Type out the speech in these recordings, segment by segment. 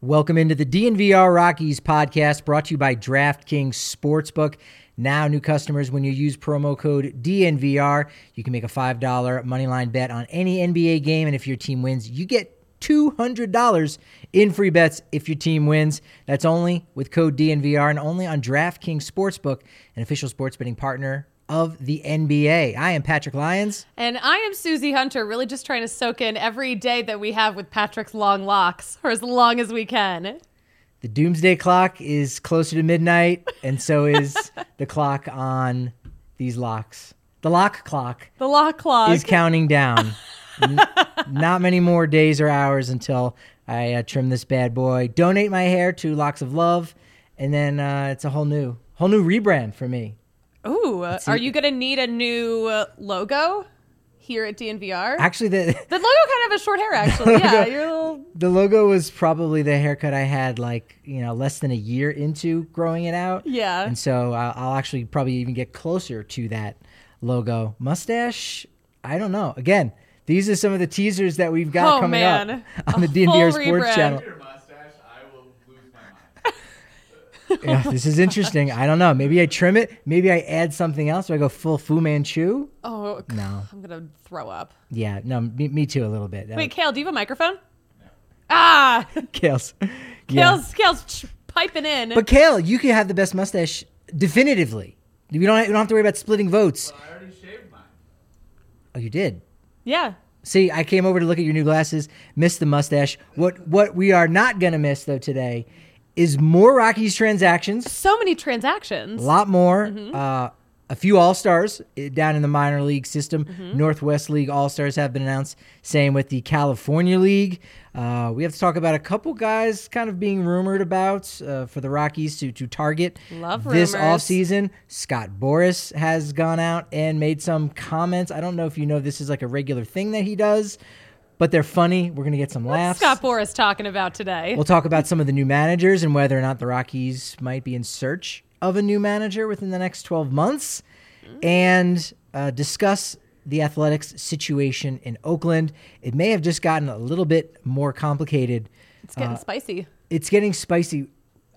Welcome into the DNVR Rockies podcast brought to you by DraftKings Sportsbook. Now, new customers, when you use promo code DNVR, you can make a $5 moneyline bet on any NBA game. And if your team wins, you get $200 in free bets if your team wins. That's only with code DNVR and only on DraftKings Sportsbook, an official sports betting partner of the NBA. I am Patrick Lyons. And I am Susie Hunter, really just trying to soak in every day that we have with Patrick's long locks, for as long as we can. The doomsday clock is closer to midnight, and so is the clock on these locks. The lock clock. The lock clock is counting down. Not many more days or hours until I trim this bad boy, donate my hair to Locks of Love, and then it's a whole new rebrand for me. Ooh, are you going to need a new logo here at DNVR? Actually, the logo kind of has short hair, actually. Yeah, the logo was probably the haircut I had less than a year into growing it out. Yeah. And so I'll actually probably even get closer to that logo. Mustache, I don't know. Again, these are some of the teasers that we've got coming up on the DNVR Sports channel. Yeah, this is interesting. I don't know. Maybe I trim it. Maybe I add something else. Do I go full Fu Manchu? Oh, no. I'm going to throw up. Yeah, no, me too a little bit. Wait, Kale, do you have a microphone? No. Ah! Kale's piping in. But Kale, you can have the best mustache definitively. We don't have to worry about splitting votes. Well, I already shaved mine. Oh, you did? Yeah. See, I came over to look at your new glasses, missed the mustache. What we are not going to miss, though, today is more Rockies transactions. So many transactions. A lot more. Mm-hmm. A few All-Stars down in the minor league system. Mm-hmm. Northwest League All-Stars have been announced. Same with the California League. We have to talk about a couple guys kind of being rumored about for the Rockies to target this offseason. Scott Boras has gone out and made some comments. I don't know if you know this is like a regular thing that he does, but they're funny. We're going to get some laughs. What's Scott Boras talking about today? We'll talk about some of the new managers and whether or not the Rockies might be in search of a new manager within the next 12 months and discuss the Athletics situation in Oakland. It may have just gotten a little bit more complicated. It's getting spicy. It's getting spicy.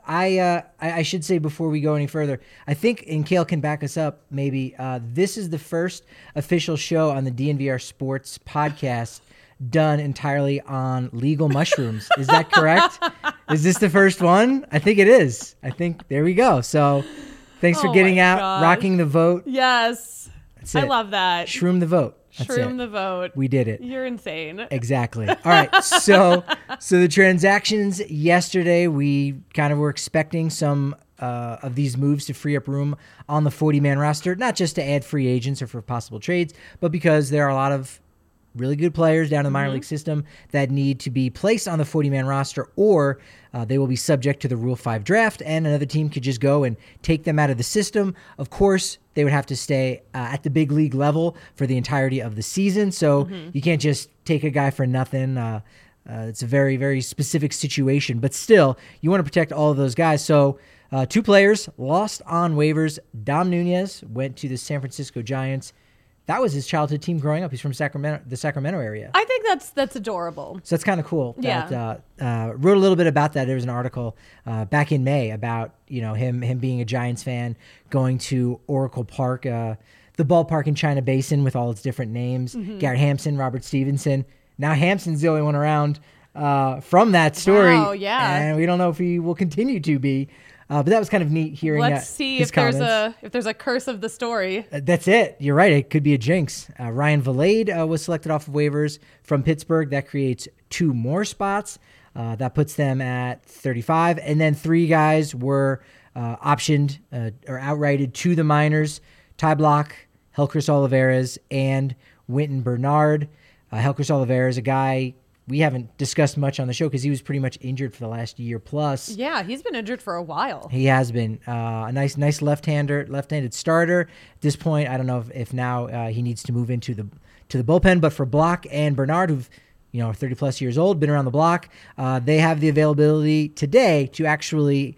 I should say before we go any further, I think, and Kale can back us up maybe, this is the first official show on the DNVR Sports podcast done entirely on legal mushrooms. Is that correct? Is this the first one? I think it is. There we go. So thanks for getting out, rocking the vote. Yes. I love that. Shroom the vote. Shroom the vote. We did it. You're insane. Exactly. All right. So the transactions yesterday, we kind of were expecting some of these moves to free up room on the 40-man roster, not just to add free agents or for possible trades, but because there are a lot of really good players down in the minor league system that need to be placed on the 40-man roster, or they will be subject to the Rule 5 draft, and another team could just go and take them out of the system. Of course, they would have to stay at the big league level for the entirety of the season, so you can't just take a guy for nothing. It's a very, very specific situation, but still, you want to protect all of those guys. So two players lost on waivers. Dom Nunez went to the San Francisco Giants. That was his childhood team growing up. He's from Sacramento, the Sacramento area. I think that's adorable. So that's kind of cool. Yeah. Wrote a little bit about that. There was an article back in May about him being a Giants fan, going to Oracle Park, the ballpark in China Basin with all its different names. Garrett Hampson, Robert Stevenson. Now Hampson's the only one around from that story. Wow, yeah. And we don't know if he will continue to be. But that was kind of neat hearing. Let's see his if comments. there's a curse of the story. That's it. You're right. It could be a jinx. Ryan Valade was selected off of waivers from Pittsburgh. That creates two more spots. That puts them at 35. And then three guys were optioned or outrighted to the minors: Ty Block, Helcris Olivares, and Winton Bernard. Helcris Olivares, a guy we haven't discussed much on the show because he was pretty much injured for the last year plus. Yeah, he's been injured for a while. He has been. A nice left-handed starter. At this point, I don't know if now he needs to move into the bullpen, but for Block and Bernard, who've are 30-plus years old, been around the block, they have the availability today to actually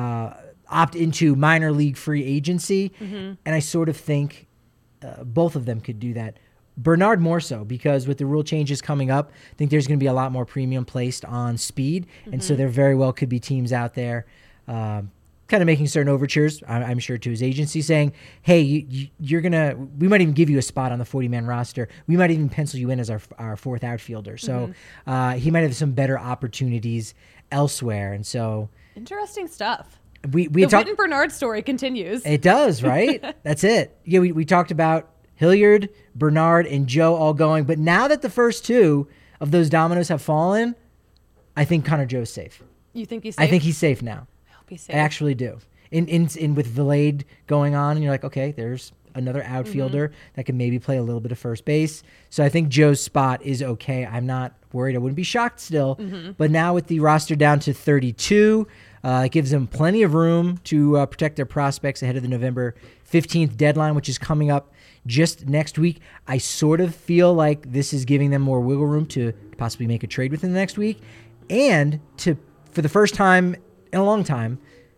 opt into minor league free agency, and I sort of think both of them could do that Bernard more so, because with the rule changes coming up, I think there's going to be a lot more premium placed on speed. And so there very well could be teams out there kind of making certain overtures, I'm sure, to his agency saying, hey, we might even give you a spot on the 40-man roster. We might even pencil you in as our fourth outfielder. So he might have some better opportunities elsewhere. And so interesting stuff. The Witten Bernard story continues. It does, right? That's it. Yeah, we talked about Hilliard, Bernard, and Joe all going. But now that the first two of those dominoes have fallen, I think Connor Joe's safe. You think he's safe? I think he's safe now. I hope he's safe. I actually do. In with Vilade going on, and you're like, okay, there's another outfielder that can maybe play a little bit of first base. So I think Joe's spot is okay. I'm not worried. I wouldn't be shocked still. But now with the roster down to 32, it gives them plenty of room to protect their prospects ahead of the November 15th deadline, which is coming up just next week. I sort of feel like this is giving them more wiggle room to possibly make a trade within the next week and to, for the first time in a long time,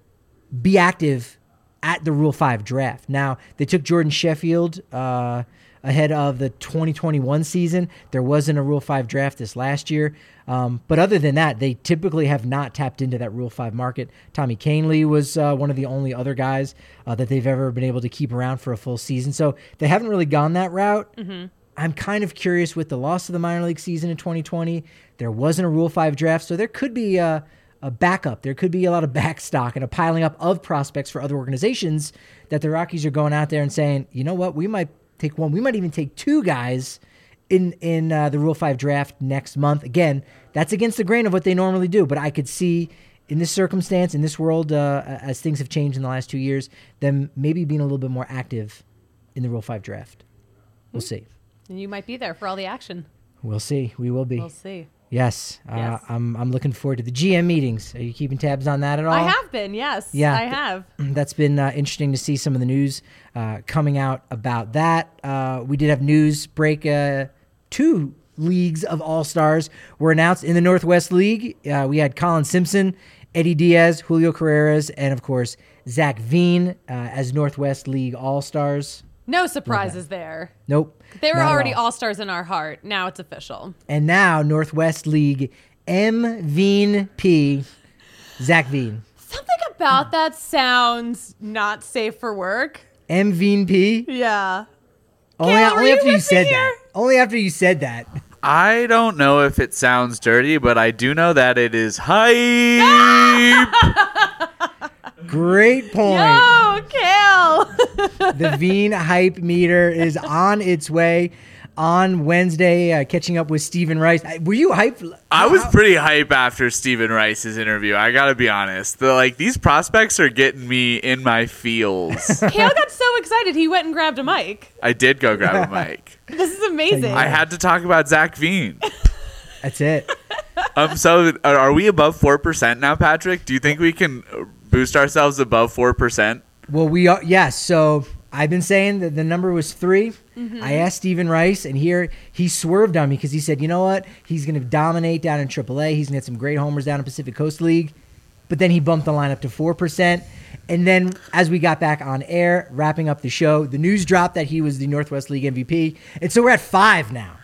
be active at the Rule 5 draft. Now, they took Jordan Sheffield ahead of the 2021 season. There wasn't a Rule 5 draft this last year. But other than that, they typically have not tapped into that Rule 5 market. Tommy Kahnle was one of the only other guys that they've ever been able to keep around for a full season. So they haven't really gone that route. I'm kind of curious with the loss of the minor league season in 2020. There wasn't a Rule 5 draft, so there could be a backup. There could be a lot of backstock and a piling up of prospects for other organizations that the Rockies are going out there and saying, you know what, we might take one. We might even take two guys in the Rule 5 draft next month. Again, that's against the grain of what they normally do, but I could see in this circumstance, in this world, as things have changed in the last 2 years, them maybe being a little bit more active in the Rule 5 draft. We'll see. And you might be there for all the action. We'll see. We will be. We'll see. Yes. I'm looking forward to the GM meetings. Are you keeping tabs on that at all? I have been, yes. Yeah, I have. That's been interesting to see some of the news coming out about that. We did have news break. 2 leagues of All-Stars were announced in the Northwest League. We had Colin Simpson, Eddie Diaz, Julio Carreras, and, of course, Zach Veen as Northwest League All-Stars. No surprises there. Nope. They were already all-stars in our heart. Now it's official. And now Northwest League MVP, Zach Veen. Something about that sounds not safe for work. MVP? Yeah. Only after you said that. Only after you said that. I don't know if it sounds dirty, but I do know that it is hype. Great point. Yo, Kale. The Veen hype meter is on its way on Wednesday, catching up with Stephen Rice. Were you hyped? I was pretty hype after Stephen Rice's interview. I got to be honest. These prospects are getting me in my feels. Kale got so excited he went and grabbed a mic. I did go grab a mic. This is amazing. I had to talk about Zach Veen. That's it. So are we above 4% now, Patrick? Do you think we can boost ourselves above 4%? Well, we are. Yes. So I've been saying that the number was 3. I asked Stephen Rice, and here he swerved on me because he said, you know what? He's going to dominate down in AAA. He's going to get some great homers down in Pacific Coast League. But then he bumped the line up to 4%. And then as we got back on air, wrapping up the show, the news dropped that he was the Northwest League MVP. And so we're at 5 now.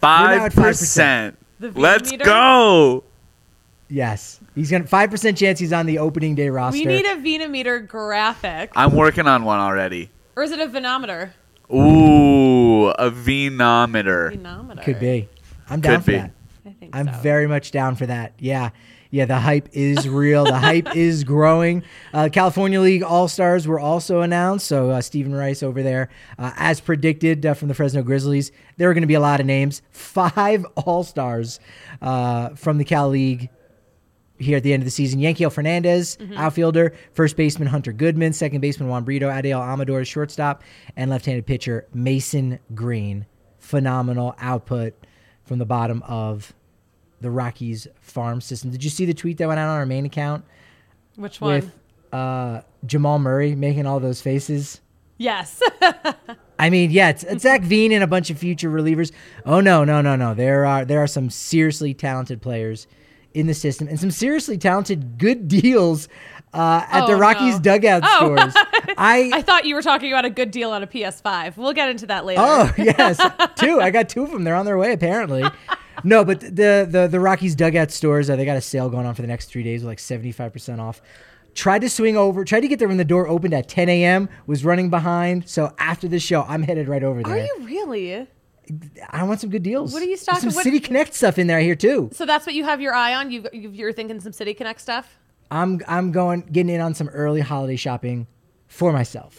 5%. Let's meter? go. Yes. He's going to 5% chance he's on the opening day roster. We need a Venometer graphic. I'm working on one already. Or is it a Venometer? Ooh, a Venometer. Venometer. Could be. I'm down for that. I think I'm so. very much down for that. Yeah. Yeah, the hype is real. The hype is growing. California League All-Stars were also announced. So Stephen Rice over there, as predicted from the Fresno Grizzlies, there are going to be a lot of names. 5 All-Stars from the Cal League here at the end of the season. Yankiel Fernandez, outfielder, first baseman Hunter Goodman, second baseman Juan Brito, Adael Amador, shortstop, and left-handed pitcher Mason Green. Phenomenal output from the bottom of the Rockies farm system. Did you see the tweet that went out on our main account? Which one? With Jamal Murray making all those faces? Yes. I mean, yeah, it's Zach Veen and a bunch of future relievers. Oh, no. There are some seriously talented players in the system and some seriously talented good deals at the Rockies dugout stores. I thought you were talking about a good deal on a PS5. We'll get into that later. Oh, yes. Two. I got two of them. They're on their way, apparently. No, but the Rockies dugout stores, they got a sale going on for the next 3 days with like 75% off. Tried to get there when the door opened at 10 a.m., was running behind. So after the show, I'm headed right over there. Are you really? I want some good deals. What are you stocking? Some City Connect stuff in there here, too. So that's what you have your eye on? You're thinking some City Connect stuff? I'm getting in on some early holiday shopping for myself.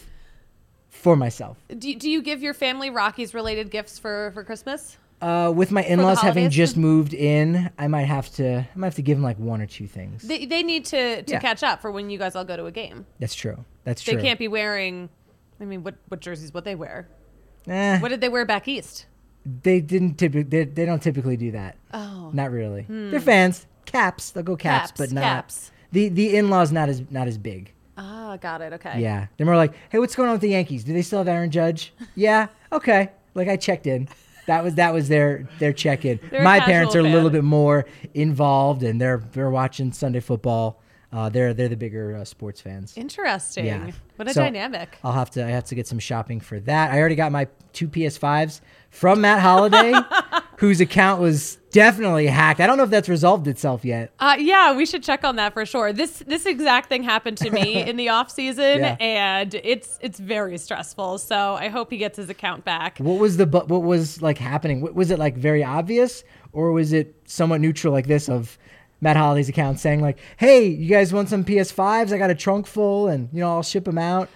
Do you give your family Rockies related gifts for Christmas? With my in-laws having holidays? just moved in, I might have to give them like one or two things. They need to catch up for when you guys all go to a game. That's true. They can't be wearing, I mean, what jerseys would they wear? What did they wear back east? They don't typically do that. Oh. Not really. They're fans. Caps. They'll go caps, but not caps. The in-laws not as big. Ah, got it. Okay. Yeah. They're more like, "Hey, what's going on with the Yankees? Do they still have Aaron Judge?" Yeah. Okay. Like I checked in. That was their check-in. My parents are a little bit more involved, and they're watching Sunday football. They're the bigger sports fans. Interesting. Yeah. What a dynamic. I have to get some shopping for that. I already got my 2 PS5s from Matt Holliday, whose account was definitely hacked. I don't know if that's resolved itself yet. Yeah, we should check on that for sure. This exact thing happened to me in the off season, and it's very stressful. So I hope he gets his account back. What was like happening? Was it like very obvious, or was it somewhat neutral like this of Matt Holliday's account saying like, "Hey, you guys want some PS5s? I got a trunk full, and I'll ship them out."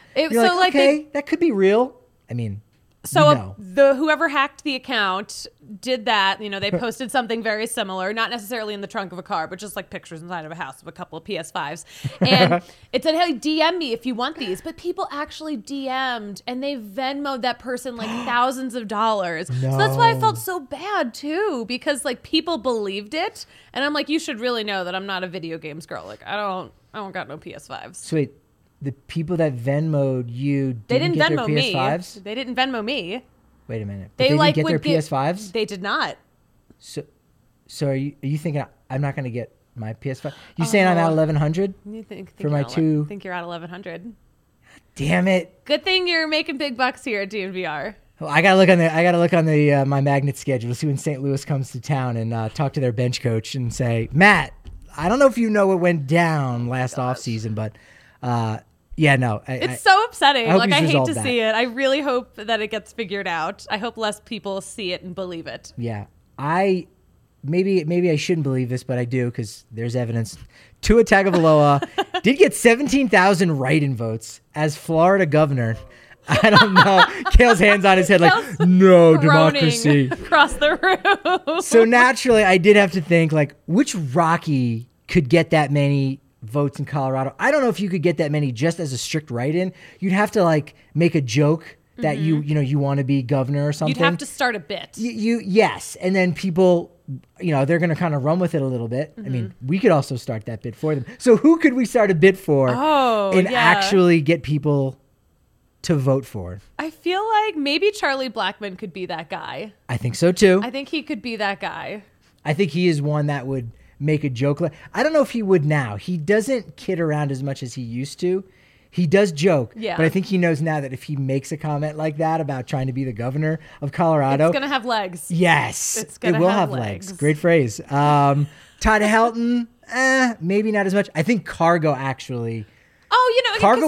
That could be real. I mean. So whoever hacked the account did that. They posted something very similar, not necessarily in the trunk of a car, but just like pictures inside of a house of a couple of PS5s. And it said, "Hey, DM me if you want these." But people actually DM'd and they Venmo'd that person like thousands of dollars. No. So that's why I felt so bad too, because like people believed it. And I'm like, you should really know that I'm not a video games girl. Like I don't got no PS5s. So wait. The people that Venmo'd you didn't get Venmo their PS5s? me. They didn't Venmo me. Wait a minute. They didn't get their PS5s? They did not. So are you thinking I'm not going to get my PS5? You saying I'm at 1100 for my two? I think you're at 1100. Damn it! Good thing you're making big bucks here at DNVR. Well, I gotta look on the my Magnet schedule to see when St. Louis comes to town and talk to their bench coach and say, Matt, I don't know if you know what went down last offseason, but. Yeah, no. It's so upsetting. I hate to see it. I really hope that it gets figured out. I hope less people see it and believe it. Yeah. Maybe I shouldn't believe this, but I do because there's evidence. Tua Tagovailoa did get 17,000 write-in votes as Florida governor. I don't know. Kale's hands on his head like, no democracy. Across the room. So naturally, I did have to think, like, which Rocky could get that many votes in Colorado? I don't know if you could get that many just as a strict write-in. You'd have to like make a joke that you want to be governor or something. You'd have to start a bit. Yes, and then people, they're going to kind of run with it a little bit. I mean, we could also start that bit for them. So who could we start a bit for and actually get people to vote for? I feel like maybe Charlie Blackmon could be that guy. I think so too. I think he could be that guy. I think he is one that would make a joke. I don't know if he would now. He doesn't kid around as much as he used to. He does joke, but I think he knows now that if he makes a comment like that about trying to be the governor of Colorado, it's going to have legs. Yes, it will have legs. Great phrase. Todd Helton, maybe not as much. I think Cargo actually. Oh, Cargo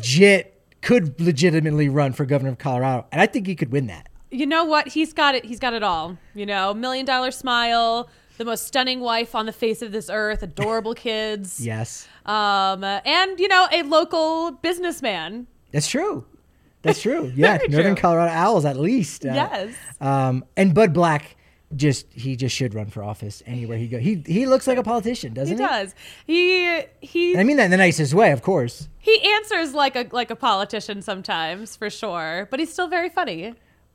could legitimately run for governor of Colorado, and I think he could win that. You know what? He's got it. He's got it all. $1 million smile. The most stunning wife on the face of this earth, adorable kids. Yes. And, a local businessman. That's true. Yeah. Northern Colorado Owls, at least. Yes. And Bud Black, he just should run for office anywhere he goes. He looks like a politician, doesn't he? He does. He. And I mean that in the nicest way, of course. He answers like a politician sometimes, for sure. But he's still very funny.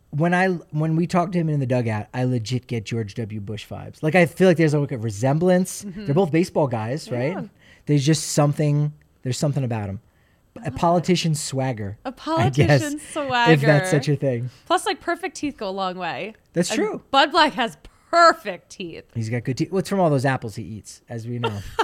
When we talk to him in the dugout, I legit get George W. Bush vibes. Like I feel like there's a resemblance. They're both baseball guys, right? Yeah. There's just something. There's something about him. A politician swagger. A politician swagger. If that's such a thing. Plus, like perfect teeth go a long way. That's true. Bud Black has perfect teeth. He's got good teeth. Well, it's from all those apples he eats, as we know.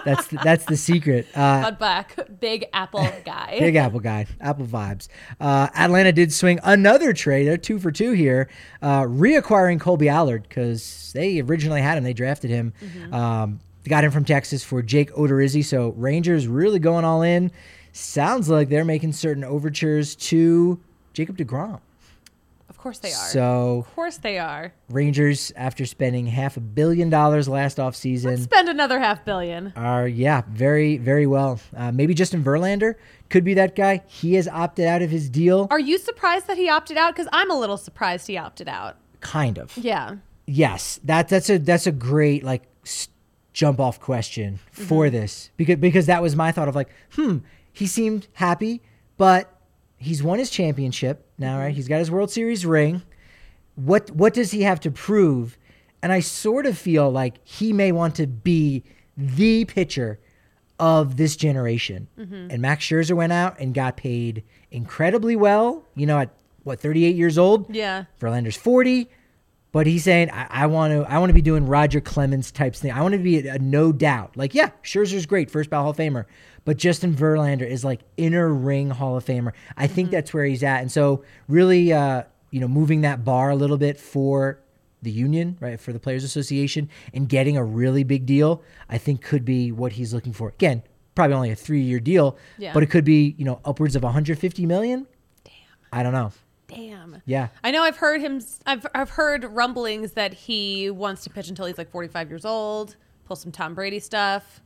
That's the secret. Bud Black, Big Apple guy. Big Apple guy. Apple vibes. Atlanta did swing another trade. They're 2 for 2 here. Reacquiring Colby Allard because they originally had him. They drafted him. They got him from Texas for Jake Odorizzi. So Rangers really going all in. Sounds like they're making certain overtures to Jacob deGrom. Of course they are. So of course they are. Rangers, after spending $500 million last offseason, Let's spend another $500 million. are very, very well. Maybe Justin Verlander could be that guy. He has opted out of his deal. Are you surprised that he opted out? Because I'm a little surprised he opted out. Kind of. Yeah. Yes, that's a great jump off question for this because that was my thought of he seemed happy, but he's won his championship now, right? He's got his World Series ring. What does he have to prove? And I sort of feel like he may want to be the pitcher of this generation. And Max Scherzer went out and got paid incredibly well, at 38 years old? Yeah. Verlander's 40. But he's saying, I want to be doing Roger Clemens types thing. I want to be a no doubt. Scherzer's great, first ballot Hall of Famer. But Justin Verlander is inner ring Hall of Famer. I think that's where he's at. And so really, moving that bar a little bit for the union, right, for the Players Association and getting a really big deal, I think could be what he's looking for. Again, probably only a 3-year deal, but it could be, upwards of $150 million. Damn. I don't know. Damn. Yeah. I know I've heard him. I've heard rumblings that he wants to pitch until he's 45 years old, pull some Tom Brady stuff.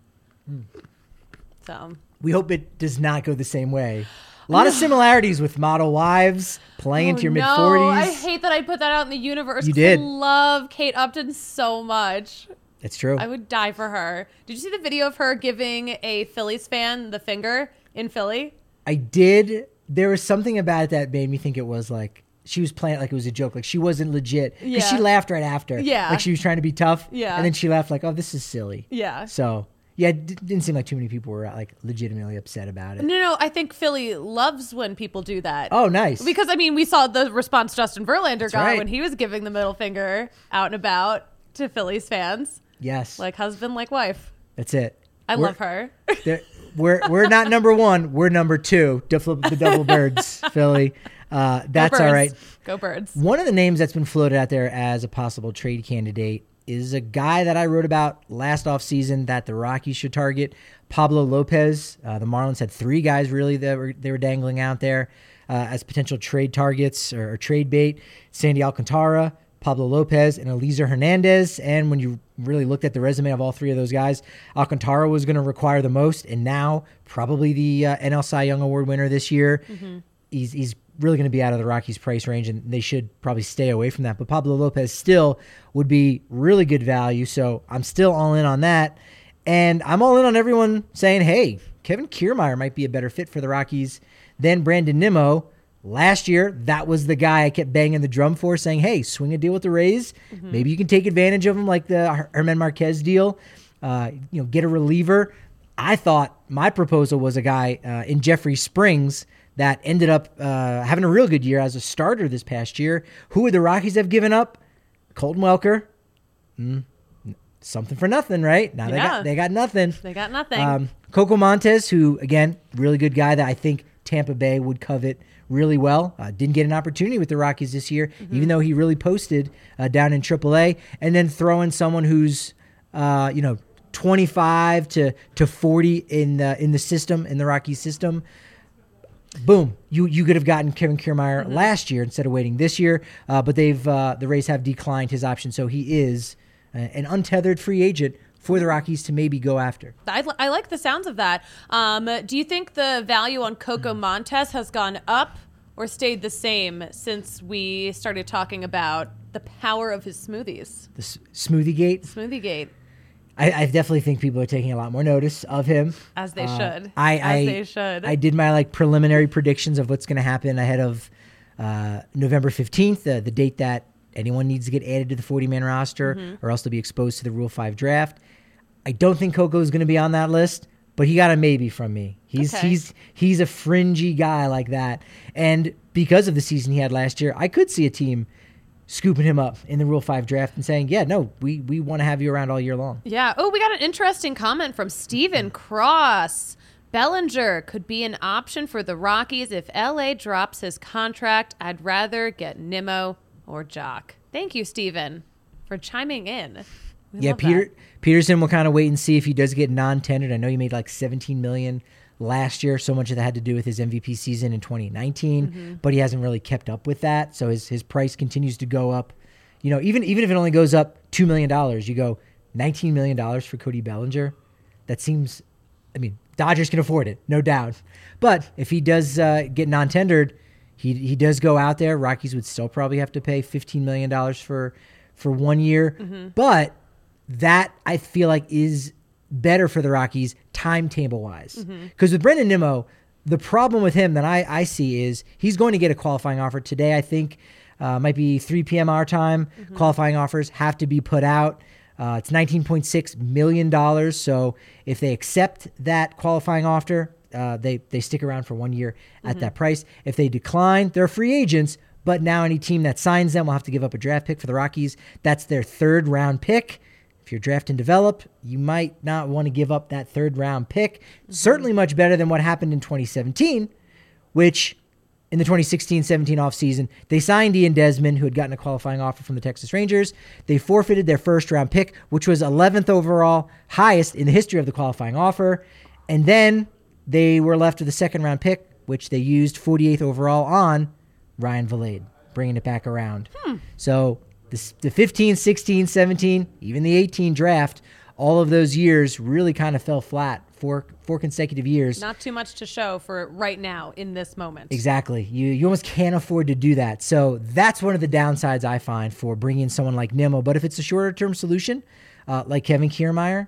So we hope it does not go the same way. A lot of similarities with model wives playing into your mid-40s. I hate that I put that out in the universe. You did. I love Kate Upton so much. It's true. I would die for her. Did you see the video of her giving a Phillies fan the finger in Philly? I did. There was something about it that made me think it was she was playing it was a joke. She wasn't legit. Because she laughed right after. Yeah. She was trying to be tough. Yeah. And then she laughed oh, this is silly. Yeah. So, yeah, it didn't seem like too many people were legitimately upset about it. No, I think Philly loves when people do that. Oh, nice. Because, we saw the response Justin Verlander got right. when he was giving the middle finger out and about to Phillies fans. Yes. Like husband, like wife. That's it. I love her. We're not number 1. We're number 2 to flip the double birds, Philly. That's all right. Go Birds. One of the names that's been floated out there as a possible trade candidate is a guy that I wrote about last offseason that the Rockies should target, Pablo Lopez. The Marlins had 3 guys really that they were dangling out there as potential trade targets or trade bait. Sandy Alcantara, Pablo Lopez, and Eliezer Hernandez. And when you really looked at the resume of all 3 of those guys, Alcantara was going to require the most, and now probably the NL Cy Young Award winner this year. He's really going to be out of the Rockies' price range, and they should probably stay away from that. But Pablo Lopez still would be really good value, so I'm still all in on that. And I'm all in on everyone saying, hey, Kevin Kiermaier might be a better fit for the Rockies than Brandon Nimmo. Last year, that was the guy I kept banging the drum for, saying, hey, swing a deal with the Rays. Maybe you can take advantage of him like the Herman Marquez deal. Get a reliever. I thought my proposal was a guy in Jeffrey Springs that ended up having a real good year as a starter this past year. Who would the Rockies have given up? Colton Welker. Something for nothing, right? Now they got nothing. They got nothing. Coco Montes, who, again, really good guy that I think Tampa Bay would covet really well. Didn't get an opportunity with the Rockies this year, even though he really posted down in AAA. And then throw in someone who's, 25 to 40 in the system, in the Rockies system. Boom! You could have gotten Kevin Kiermaier last year instead of waiting this year, but the Rays have declined his option, so he is an untethered free agent for the Rockies to maybe go after. I like the sounds of that. Do you think the value on Coco Montes has gone up or stayed the same since we started talking about the power of his smoothies? The Smoothie Gate. Smoothie Gate. I definitely think people are taking a lot more notice of him. As they should. They should. I did my preliminary predictions of what's going to happen ahead of November 15th, the date that anyone needs to get added to the 40-man roster or else to be exposed to the Rule 5 draft. I don't think Coco is going to be on that list, but he got a maybe from me. He's a fringy guy like that. And because of the season he had last year, I could see a team scooping him up in the Rule 5 draft and saying, yeah, no, we want to have you around all year long. Yeah. Oh, we got an interesting comment from Steven Cross. Bellinger could be an option for the Rockies if LA drops his contract. I'd rather get Nimmo or Jock. Thank you, Steven, for chiming in. We love that. Peterson will kind of wait and see if he does get non-tendered. I know he made like $17 million last year. So much of that had to do with his MVP season in 2019, but he hasn't really kept up with that. So his price continues to go up. You know, even if it only goes up $2 million, you go $19 million for Cody Bellinger. That seems, I mean, Dodgers can afford it, no doubt. But if he does get non-tendered, he does go out there. Rockies would still probably have to pay $15 million for 1 year. But that, I feel like, is better for the Rockies timetable-wise. Because with Brendan Nimmo, the problem with him that I see is he's going to get a qualifying offer today. I think might be 3 p.m. our time. Qualifying offers have to be put out. It's $19.6 million. So if they accept that qualifying offer, they stick around for 1 year at that price. If they decline, they're free agents. But now any team that signs them will have to give up a draft pick for the Rockies. That's their 3rd round pick. If you're draft and develop, you might not want to give up that 3rd round pick. Certainly much better than what happened in 2017, which in the 2016-17 offseason, they signed Ian Desmond, who had gotten a qualifying offer from the Texas Rangers. They forfeited their 1st round pick, which was 11th overall, highest in the history of the qualifying offer. And then they were left with a 2nd round pick, which they used 48th overall on Ryan Vilade, bringing it back around. So the 15, 16, 17, even the 18 draft, all of those years really kind of fell flat for 4 consecutive years. Not too much to show for right now in this moment. Exactly. You almost can't afford to do that. So that's one of the downsides I find for bringing in someone like Nimmo. But if it's a shorter-term solution, like Kevin Kiermaier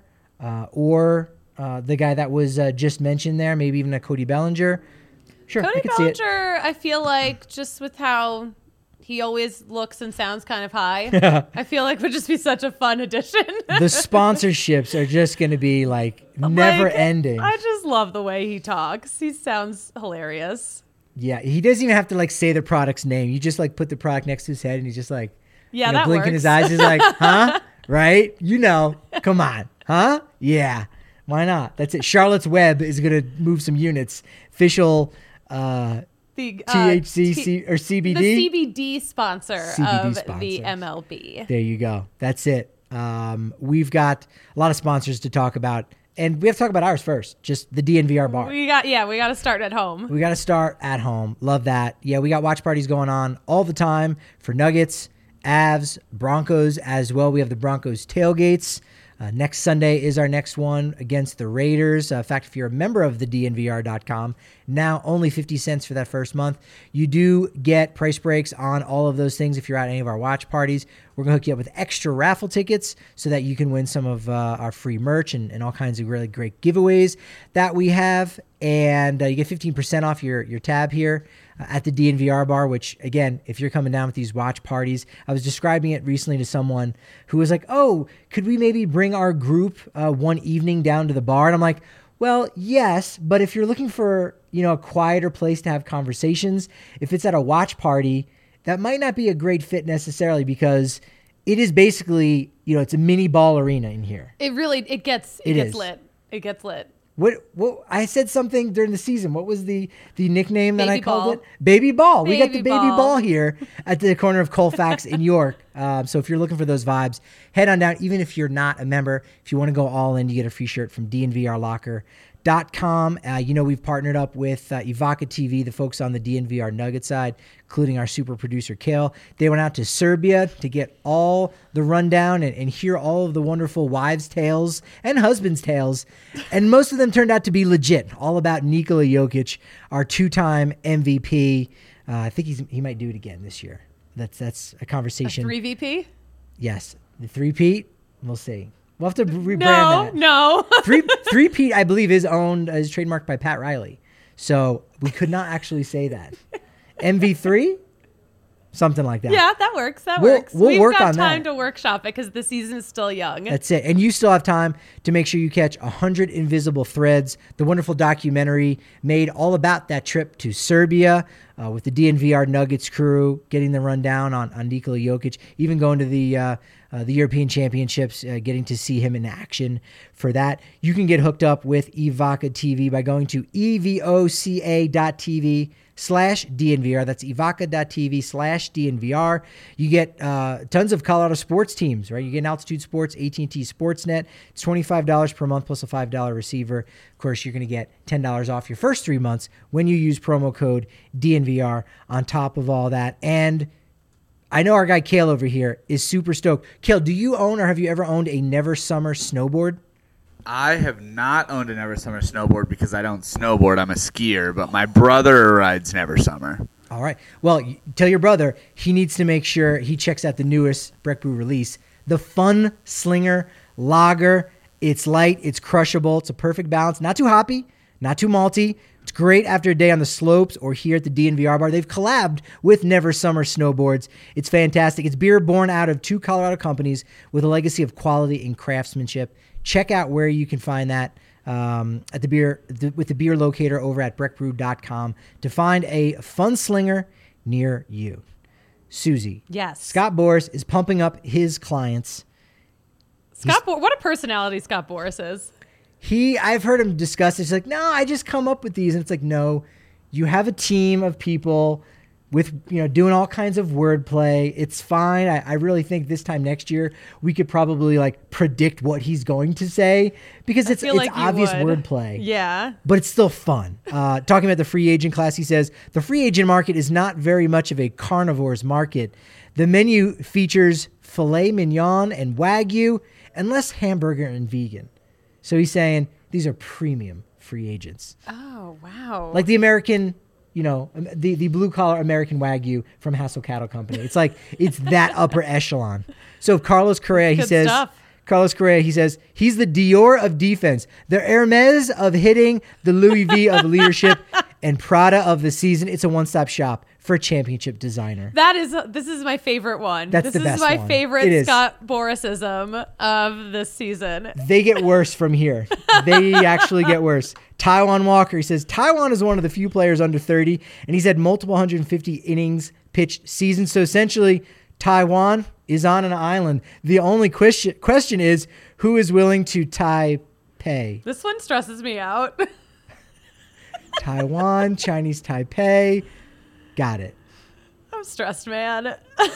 or the guy that was just mentioned there, maybe even a Cody Bellinger, sure, Cody I could see it. Bellinger, I feel like, just with how he always looks and sounds kind of high, I feel like would just be such a fun addition. The sponsorships are just going to be never ending. I just love the way he talks. He sounds hilarious. Yeah, he doesn't even have to say the product's name. You just put the product next to his head and he's just that blinking works. his eyes. He's like, huh? Right? Come on. Huh? Yeah. Why not? That's it. Charlotte's Web is going to move some units. Official The THC or CBD? The CBD sponsor of sponsor. the MLB. There you go. That's it. We've got a lot of sponsors to talk about, and we have to talk about ours first. Just the DNVR bar. We got to start at home. We got to start at home. Love that. Yeah, we got watch parties going on all the time for Nuggets, Avs, Broncos as well. We have the Broncos tailgates. Next Sunday is our next one against the Raiders. In fact, if you're a member of the DNVR.com, now only 50 cents for that first month. You do get price breaks on all of those things if you're at any of our watch parties. We're going to hook you up with extra raffle tickets so that you can win some of our free merch and all kinds of really great giveaways that we have. And you get 15% off your tab here at the DNVR bar, which, again, if you're coming down with these watch parties, I was describing it recently to someone who was like, oh, could we maybe bring our group one evening down to the bar? And I'm like, well, yes, but if you're looking for, a quieter place to have conversations, if it's at a watch party, that might not be a great fit necessarily because it is basically, it's a mini ball arena in here. It gets lit. It gets lit. What I said something during the season. What was the nickname that I called it? Baby Ball. Baby We got the baby ball. ball here at the corner of Colfax in York. So if you're looking for those vibes, head on down. Even if you're not a member, if you want to go all in, you get a free shirt from DNVRlocker.com. We've partnered up with Ivaka TV, the folks on the DNVR Nugget side, including our super producer Kale. They went out to Serbia to get all the rundown and hear all of the wonderful wives' tales and husbands' tales. And most of them turned out to be legit, all about Nikola Jokic, our 2-time MVP. I think he might do it again this year. That's a conversation. 3VP? Yes. The 3-peat, we'll see. We'll have to rebrand that. No. 3-peat, I believe, is trademarked by Pat Riley. So we could not actually say that. MV3? something like that. Yeah, that works. That We'll- works. we'll We've work got on time that. to workshop it because the season is still young. That's it. And you still have time to make sure you catch 100 Invisible Threads, the wonderful documentary made all about that trip to Serbia with the DNVR Nuggets crew, getting the rundown on Nikola Jokic, even going to the European Championships, getting to see him in action for that. You can get hooked up with Evoca TV by going to evoca.tv/DNVR. That's evoca.tv/DNVR. You get tons of Colorado sports teams, right? You get Altitude Sports, AT&T Sportsnet. It's $25 per month plus a $5 receiver. Of course, you're going to get $10 off your first 3 months when you use promo code DNVR on top of all that. And I know our guy Kale over here is super stoked. Kale, do you own or have you ever owned a Never Summer snowboard? I have not owned a Never Summer snowboard because I don't snowboard. I'm a skier, but my brother rides Never Summer. All right. Well, tell your brother he needs to make sure he checks out the newest Breck Brew release, the Fun Slinger Lager. It's light, it's crushable, it's a perfect balance. Not too hoppy, not too malty. It's great after a day on the slopes or here at the DNVR bar. They've collabed with Never Summer Snowboards. It's fantastic. It's beer born out of 2 Colorado companies with a legacy of quality and craftsmanship. Check out where you can find that at with the beer locator over at breckbrew.com to find a Fun Slinger near you. Susie. Yes. Scott Boras is pumping up his clients. What a personality Scott Boras is. I've heard him discuss it. He's like, no, I just come up with these. And it's like, no, you have a team of people with, doing all kinds of wordplay. It's fine. I really think this time next year, we could probably predict what he's going to say because it's like you obvious would. wordplay. Yeah. But it's still fun. Talking about the free agent class, he says, the free agent market is not very much of a carnivore's market. The menu features filet mignon and Wagyu and less hamburger and vegan. So he's saying these are premium free agents. Oh, wow. Like the American, the blue collar American Wagyu from Hassel Cattle Company. It's like, it's that upper echelon. So Carlos Correa, he Good says, stuff. he's the Dior of defense, the Hermes of hitting, the Louis V of leadership, and Prada of the season. It's a one-stop shop for a championship designer. This is my favorite one. That's the best This is my one. It favorite is. Scott Borisism of this season. They get worse from here. They actually get worse. Taiwan Walker, he says, Taiwan is one of the few players under 30, and he's had multiple 150 innings pitched seasons. So essentially, Taiwan is on an island. The only question is, who is willing to Taipei? This one stresses me out. Taiwan, Chinese Taipei. Got it. I'm stressed, man.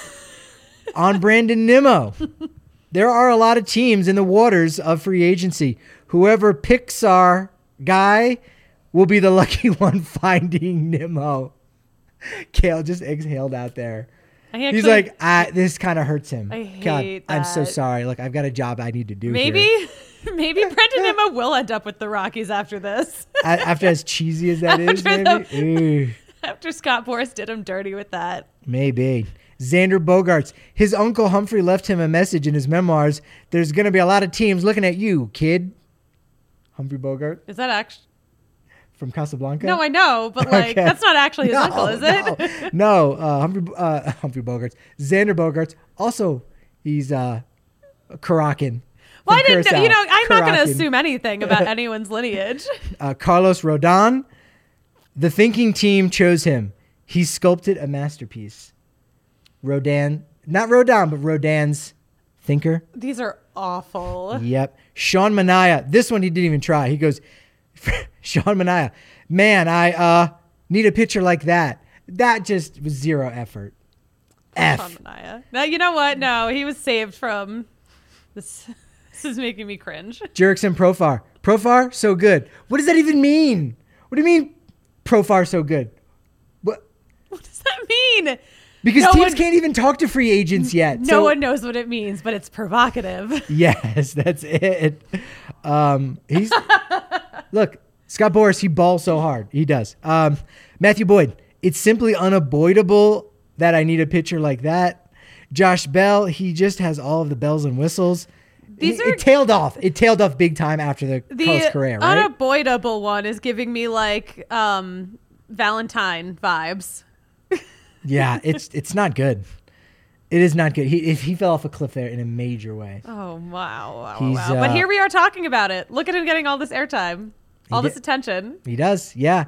On Brandon Nimmo. There are a lot of teams in the waters of free agency. Whoever picks our guy will be the lucky one finding Nimmo. Kale just exhaled out there. He's like, this kind of hurts him. I hate God, I'm so that. sorry. Look, I've got a job I need to do maybe here. Brendan Nimmo will end up with the Rockies after this. After as cheesy as that is, maybe? Ooh, After Scott Boras did him dirty with that. maybe. Xander Bogaerts. His uncle Humphrey left him a message in his memoirs. There's going to be a lot of teams looking at you, kid. Humphrey Bogart Is that actually? from Casablanca? No, I know, but Okay. that's not actually his uncle, is it? No, Humphrey Bogarts. Xander Bogaerts. Also, he's Karakin. Well, from I didn't know. Curacao. I'm not going to Karakin. assume anything about anyone's lineage. Carlos Rodon. The thinking team chose him. He sculpted a masterpiece. Not Rodon, but Rodin's thinker. These are awful. Yep. Sean Manaea. This one he didn't even try. He goes, Sean Manaea, man, I need a pitcher like that. That just was zero effort. F. Sean Manaea. Now, you know what? No, he was saved from this. This is making me cringe. Jerickson Profar. Profar, so good. What does that even mean? What do you mean, Profar, so good? What? What does that mean? Because No teams one- can't even talk to free agents yet. No So- one knows what it means, but it's provocative. Yes, that's it. He's look, Scott Boras, he balls so hard. He does. Matthew Boyd, it's simply unavoidable that I need a pitcher like that. Josh Bell, he just has all of the bells and whistles. It tailed off. It tailed off big time after the Carlos Correa, right? unavoidable one is giving me like Valentine vibes. Yeah, it's not good. It is not good. He fell off a cliff there in a major way. Oh, wow. He's, But here we are talking about it. Look at him getting all this airtime, all this attention. He does, yeah.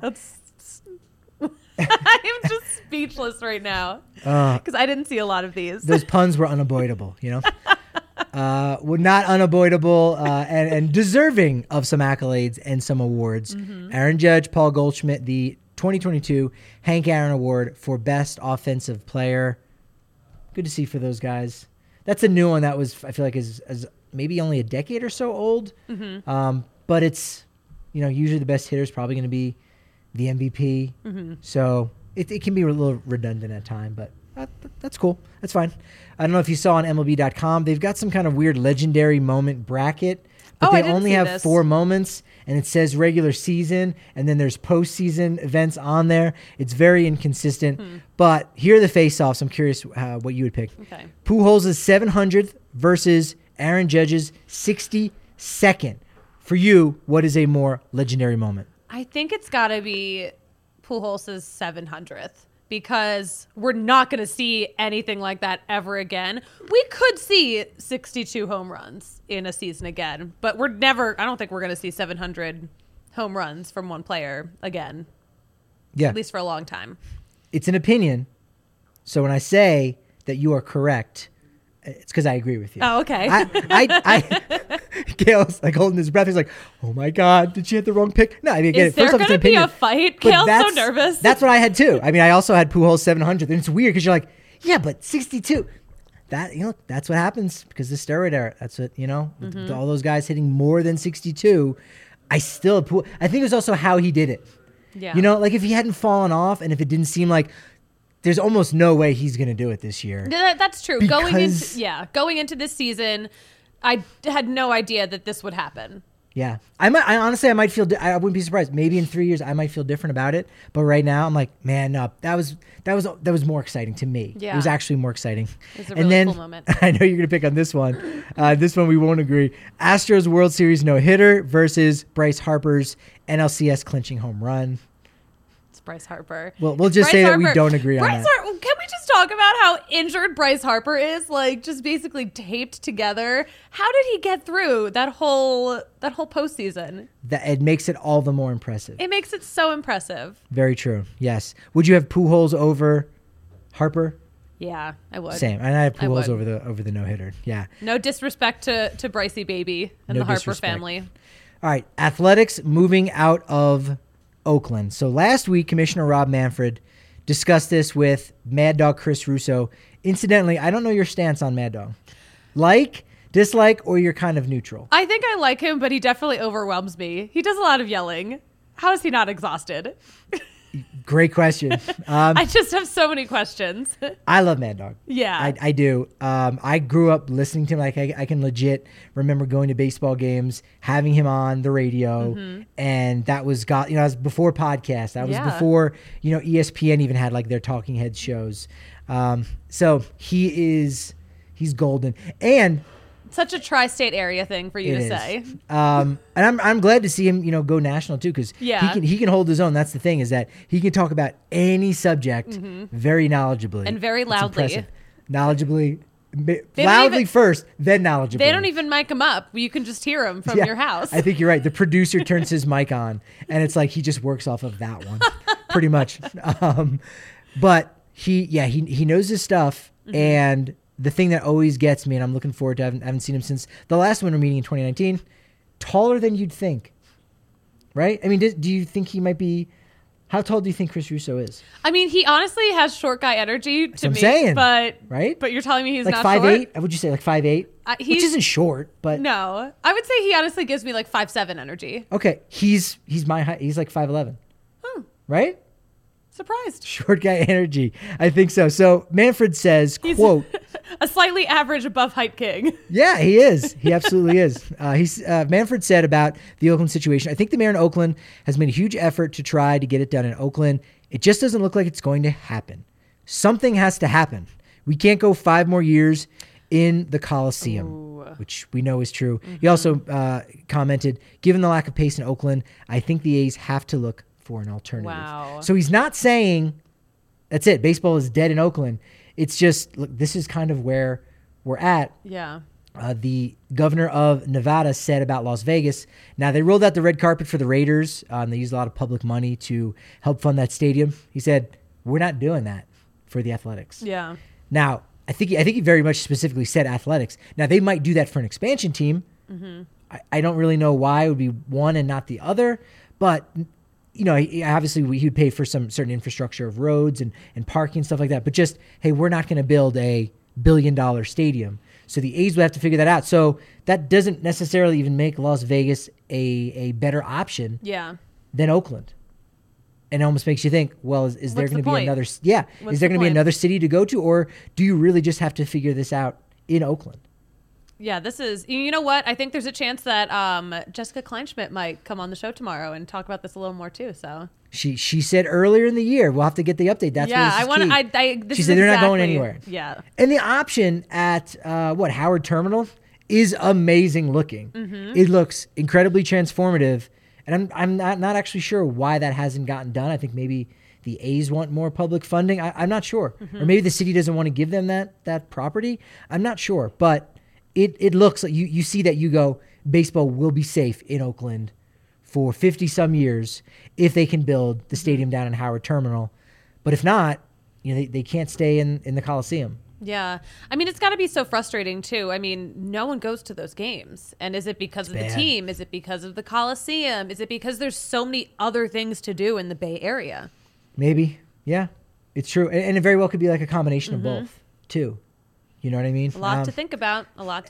I'm just speechless right now because I didn't see a lot of these. Those puns were unavoidable, you know? Were not unavoidable and deserving of some accolades and some awards. Aaron Judge, Paul Goldschmidt, the 2022 Hank Aaron Award for Best Offensive Player. Good to see for those guys. That's a new one that was, I feel like, is maybe only a decade or so old. But it's, usually the best hitter is probably going to be the MVP. So it can be a little redundant at time, but that's cool. That's fine. I don't know if you saw on MLB.com, they've got some kind of weird legendary moment bracket, but they only have 4 moments, and it says regular season, and then there's postseason events on there. It's very inconsistent, but here are the face-offs. I'm curious what you would pick. Okay. Pujols' 700th versus Aaron Judge's 62nd. For you, what is a more legendary moment? I think it's got to be Pujols' 700th because we're not going to see anything like that ever again. We could see 62 home runs in a season again, but I don't think we're going to see 700 home runs from one player again. Yeah. At least for a long time. It's an opinion. So when I say that you are correct, it's because I agree with you. Oh, okay. Gail's like holding his breath. He's like, "Oh my God, did she hit the wrong pick?" No, I mean, Is there going to be a fight? Gail's so nervous. That's what I had too. I mean, I also had Pujols 700, and it's weird because you're like, "Yeah, but 62." That's what happens because the steroid era. That's what with all those guys hitting more than 62. I think it was also how he did it. Yeah. Like if he hadn't fallen off, and if it didn't seem like. There's almost no way he's going to do it this year. That's true. Going into this season, I had no idea that this would happen. Yeah, I might feel. I wouldn't be surprised. Maybe in 3 years, I might feel different about it. But right now, I'm like, man, no, that was more exciting to me. Yeah. It was actually more exciting. It was a really cool moment. I know you're gonna pick on this one. This one we won't agree. Astros World Series no hitter versus Bryce Harper's NLCS clinching home run. Bryce Harper. Well, we'll just say that we don't agree on that. Can we just talk about how injured Bryce Harper is? Like, just basically taped together. How did he get through that whole postseason? It makes it all the more impressive. It makes it so impressive. Very true. Yes. Would you have Pujols over Harper? Yeah, I would. Same. And I have Pujols over the no hitter. Yeah. No disrespect to Brycey baby and the Harper family. All right. Athletics moving out of Oakland. So last week, Commissioner Rob Manfred discussed this with Mad Dog Chris Russo. Incidentally, I don't know your stance on Mad Dog. Like, dislike, or you're kind of neutral? I think I like him, but he definitely overwhelms me. He does a lot of yelling. How is he not exhausted? Great question. I just have so many questions. I love Mad Dog. Yeah. I do. I grew up listening to him. Like I can legit remember going to baseball games, having him on the radio, and that was that was before podcasts. That was before ESPN even had like their talking heads shows. So he's golden, and such a tri-state area thing for you to say. And I'm glad to see him, go national too, because he can hold his own. That's the thing, is that he can talk about any subject very knowledgeably and very loudly. Loudly first, then knowledgeably. They don't even mic him up. You can just hear him from your house. I think you're right. The producer turns his mic on, and it's like he just works off of that one, pretty much. But he knows his stuff, and the thing that always gets me, and I'm looking forward to, I haven't seen him since the last winter meeting in 2019, taller than you'd think, right? I mean, do you think he might be, how tall do you think Chris Russo is? I mean, he honestly has short guy energy to me. Saying, but right? But you're telling me he's like not 5'8"? short? Would you say like 5'8"? Which isn't short, but. No. I would say he honestly gives me like 5'7" energy. Okay. He's my height. He's like 5'11". Right? Surprised. Short guy energy. I think so. So Manfred says, quote, a slightly average above height king. Yeah, he is. He absolutely is. Manfred said about the Oakland situation, I think the mayor in Oakland has made a huge effort to try to get it done in Oakland. It just doesn't look like it's going to happen. Something has to happen. We can't go 5 more years in the Coliseum, which we know is true. He also commented, given the lack of pace in Oakland, I think the A's have to look for an alternative. Wow. So he's not saying That's it. Baseball is dead in Oakland. It's just, look, this is kind of where we're at. Yeah. The governor of Nevada said about Las Vegas. Now, they rolled out the red carpet for the Raiders. They used a lot of public money to help fund that stadium. He said, we're not doing that for the Athletics. Yeah. Now, I think he very much specifically said Athletics. Now, they might do that for an expansion team. Mm-hmm. I don't really know why it would be one and not the other. But, you know, obviously he would pay for some certain infrastructure of roads and parking and stuff like that. But just, hey, we're not going to build a $1 billion stadium. So the A's would have to figure that out. So that doesn't necessarily even make Las Vegas a better option than Oakland. And it almost makes you think, well, is there going to be another? Yeah, is there going to be another city to go to, or do you really just have to figure this out in Oakland? Yeah, this is. You know what? I think there's a chance that Jessica Kleinschmidt might come on the show tomorrow and talk about this a little more too. So she said earlier in the year, we'll have to get the update. That's I want to. She said they're not going anywhere. Yeah, and the option at Howard Terminal is amazing looking. Mm-hmm. It looks incredibly transformative. And I'm not actually sure why that hasn't gotten done. I think maybe the A's want more public funding. I'm not sure. Mm-hmm. Or maybe the city doesn't want to give them that property. I'm not sure. But it looks like you see that you go, baseball will be safe in Oakland for 50-some years if they can build the stadium down in Howard Terminal. But if not, you know, they can't stay in the Coliseum. Yeah. I mean, it's got to be so frustrating, too. I mean, no one goes to those games. And is it because of the team? Is it because of the Coliseum? Is it because there's so many other things to do in the Bay Area? Maybe. Yeah. It's true. And it very well could be like a combination of both, too. You know what I mean? A lot to think about.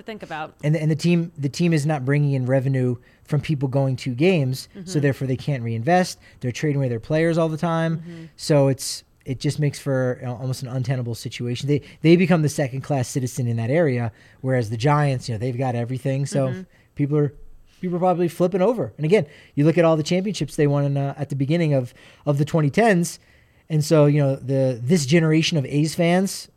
And the team is not bringing in revenue from people going to games, so therefore they can't reinvest. They're trading away their players all the time. So it just makes for almost an untenable situation. They become the second-class citizen in that area, whereas the Giants, you know, they've got everything. So people are probably flipping over. And again, you look at all the championships they won at the beginning of the 2010s, and so you know this generation of A's fans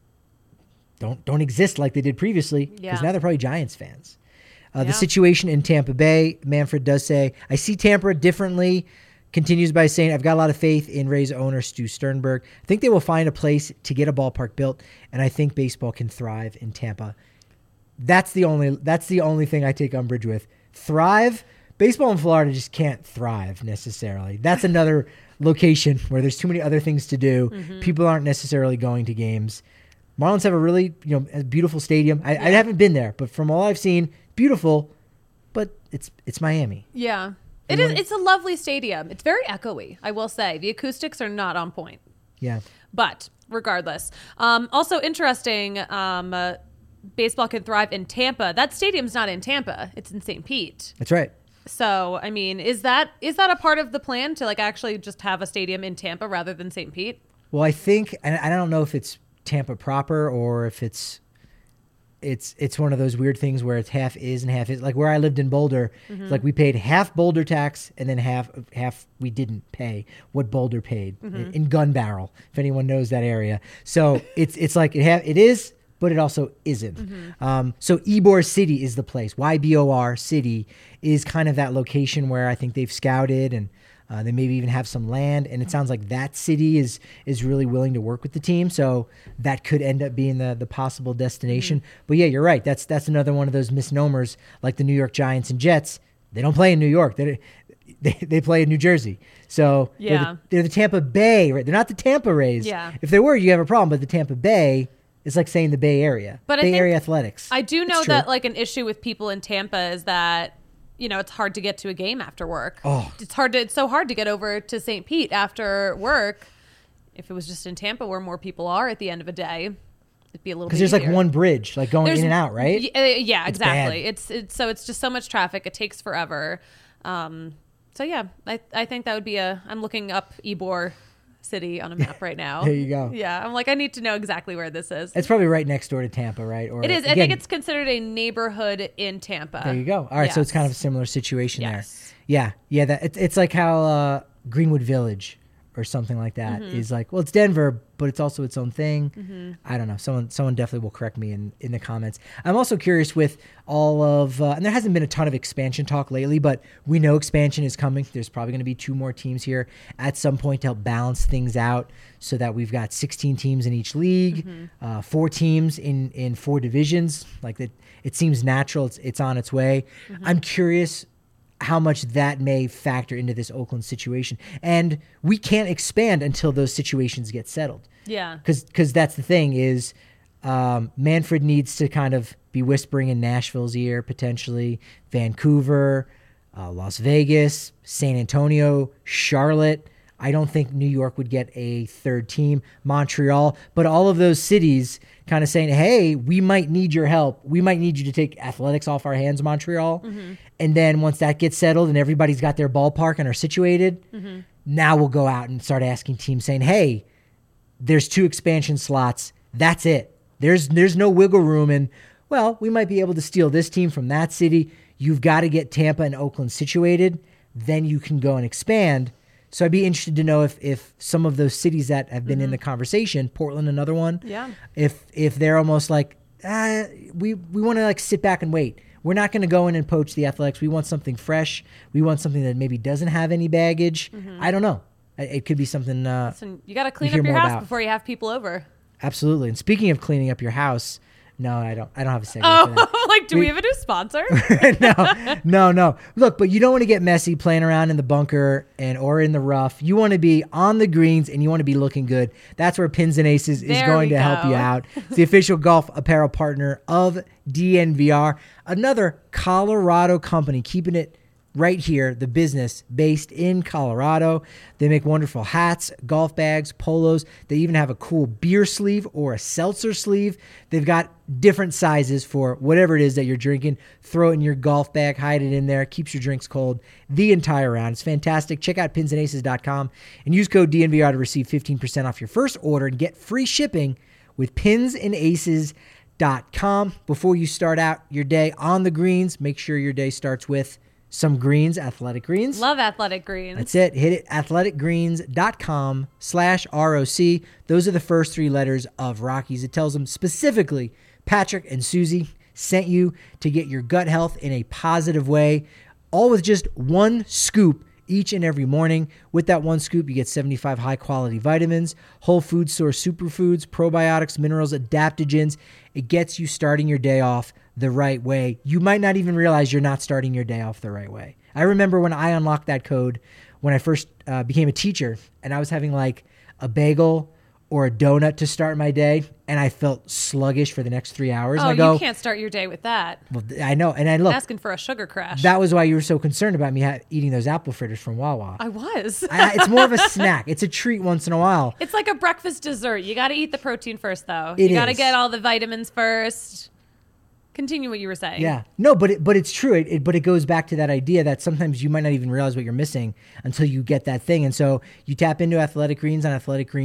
don't exist like they did previously because now they're probably Giants fans. The situation in Tampa Bay, Manfred does say, I see Tampa differently. Continues by saying, I've got a lot of faith in Rays owner Stu Sternberg. I think they will find a place to get a ballpark built, and I think baseball can thrive in Tampa. That's the only thing I take umbrage with. Thrive? Baseball in Florida just can't thrive necessarily. That's another location where there's too many other things to do. People aren't necessarily going to games. Marlins have a really a beautiful stadium. I haven't been there, but from all I've seen, beautiful, but it's Miami. Yeah. It is. It's a lovely stadium. It's very echoey, I will say. The acoustics are not on point. Yeah. But regardless. Also interesting, baseball can thrive in Tampa. That stadium's not in Tampa. It's in St. Pete. That's right. So, I mean, is that a part of the plan to like actually just have a stadium in Tampa rather than St. Pete? Well, I think, and I don't know if it's Tampa proper or if it's one of those weird things where it's half is and half is. Like where I lived in Boulder, like we paid half Boulder tax and then half we didn't pay what Boulder paid in Gun Barrel, if anyone knows that area. So it's like it is, but it also isn't. So Ybor City is the place. YBOR City is kind of that location where I think they've scouted and they maybe even have some land, and it sounds like that city is really willing to work with the team, so that could end up being the possible destination. But yeah, you're right. That's another one of those misnomers, like the New York Giants and Jets. They don't play in New York. They play in New Jersey. So they're the Tampa Bay, right? They're not the Tampa Rays. Yeah. If they were, you have a problem. But the Tampa Bay is like saying the Bay Area. But Bay Area Athletics. I do know that like an issue with people in Tampa is that it's hard to get to a game after work. Oh. It's so hard to get over to St. Pete after work. If it was just in Tampa where more people are at the end of a day, it'd be a little bit easier. Because there's like one bridge, like going in and out, right? Yeah, exactly. Bad. It's just so much traffic. It takes forever. So yeah, I think that would be I'm looking up Ybor City on a map right now. There you go. Yeah, I'm like, I need to know exactly where this is. It's probably right next door to Tampa, right? Or it is. Again, I think it's considered a neighborhood in Tampa. There you go. All right, so it's kind of a similar situation there. Yes. Yeah. It's like how Greenwood Village or something like that is like, well, it's Denver, but it's also its own thing. I don't know. Someone definitely will correct me in the comments. I'm also curious with all of, and there hasn't been a ton of expansion talk lately, but we know expansion is coming. There's probably going to be 2 more teams here at some point to help balance things out so that we've got 16 teams in each league, 4 teams in 4 divisions. Like that, it seems natural. It's on its way. I'm curious how much that may factor into this Oakland situation. And we can't expand until those situations get settled. Yeah. Because that's the thing is Manfred needs to kind of be whispering in Nashville's ear, potentially, Vancouver, Las Vegas, San Antonio, Charlotte. I don't think New York would get a 3rd team, Montreal, but all of those cities kind of saying, hey, we might need your help. We might need you to take athletics off our hands, Montreal. And then once that gets settled and everybody's got their ballpark and are situated, now we'll go out and start asking teams saying, hey, there's 2 expansion slots. That's it. There's no wiggle room. And, well, we might be able to steal this team from that city. You've got to get Tampa and Oakland situated. Then you can go and expand. So I'd be interested to know if some of those cities that have been in the conversation, Portland, another one, if they're almost like, we want to like sit back and wait. We're not going to go in and poach the Athletics. We want something fresh. We want something that maybe doesn't have any baggage. I don't know. It could be something. Listen, you got to clean up your house before you have people over. Absolutely. And speaking of cleaning up your house, no, I don't have a segment for that. Like, do we have a new sponsor? No. Look, but you don't want to get messy playing around in the bunker or in the rough. You want to be on the greens and you want to be looking good. That's where Pins and Aces is going to help you out. It's the official golf apparel partner of DNVR, another Colorado company, keeping it right here, the business based in Colorado. They make wonderful hats, golf bags, polos. They even have a cool beer sleeve or a seltzer sleeve. They've got different sizes for whatever it is that you're drinking. Throw it in your golf bag, hide it in there, keeps your drinks cold the entire round. It's fantastic. Check out pinsandaces.com and use code DNVR to receive 15% off your first order and get free shipping with pinsandaces.com. Before you start out your day on the greens, make sure your day starts with some greens, Athletic Greens. Love Athletic Greens. That's it. Hit it, athleticgreens.com/ROC. Those are the first 3 letters of Rockies. It tells them specifically Patrick and Susie sent you to get your gut health in a positive way, all with just 1 scoop each and every morning. With that 1 scoop, you get 75 high-quality vitamins, whole food source superfoods, probiotics, minerals, adaptogens. It gets you starting your day off the right way. You might not even realize you're not starting your day off the right way. I remember when I unlocked that code when I first became a teacher, and I was having like a bagel or a donut to start my day, and I felt sluggish for the next 3 hours. Oh, and I go, you can't start your day with that. Well, I know, and I look. Asking for a sugar crash. That was why you were so concerned about me eating those apple fritters from Wawa. I was. It's more of a snack. It's a treat once in a while. It's like a breakfast dessert. You got to eat the protein first, though. You got to get all the vitamins first. Continue what you were saying. Yeah. No, but it's true. But it goes back to that idea that sometimes you might not even realize what you're missing until you get that thing. And so you tap into Athletic Greens on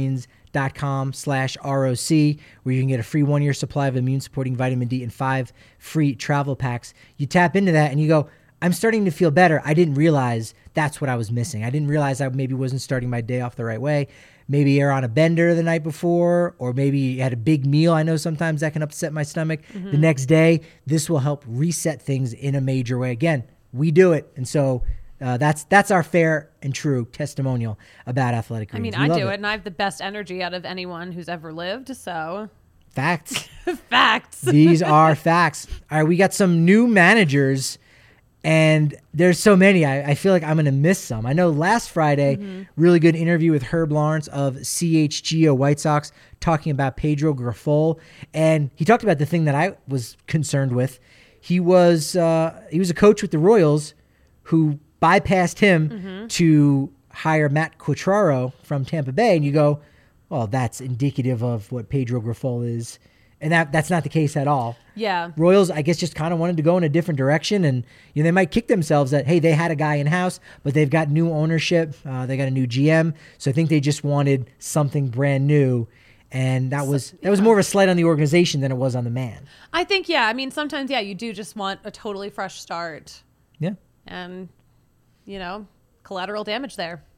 athleticgreens.com/ROC, where you can get a free 1-year supply of immune-supporting vitamin D and 5 free travel packs. You tap into that and you go, I'm starting to feel better. I didn't realize that's what I was missing. I didn't realize I maybe wasn't starting my day off the right way. Maybe you're on a bender the night before, or maybe you had a big meal. I know sometimes that can upset my stomach. The next day, this will help reset things in a major way. Again, we do it. And so that's our fair and true testimonial about Athletic Greens. I mean, I do it, and I have the best energy out of anyone who's ever lived, so... Facts. Facts. These are facts. All right, we got some new managers, and there's so many. I feel like I'm going to miss some. I know last Friday, really good interview with Herb Lawrence of CHGO White Sox talking about Pedro Grifol, and he talked about the thing that I was concerned with. He was a coach with the Royals who bypassed him to hire Matt Quatraro from Tampa Bay, and you go, well, that's indicative of what Pedro Grifol is. And that's not the case at all. Yeah. Royals, I guess, just kind of wanted to go in a different direction. And they might kick themselves that, hey, they had a guy in-house, but they've got new ownership. They got a new GM. So I think they just wanted something brand new. And that was more of a slight on the organization than it was on the man. I think, yeah. I mean, sometimes, yeah, you do just want a totally fresh start. Yeah. And, collateral damage there.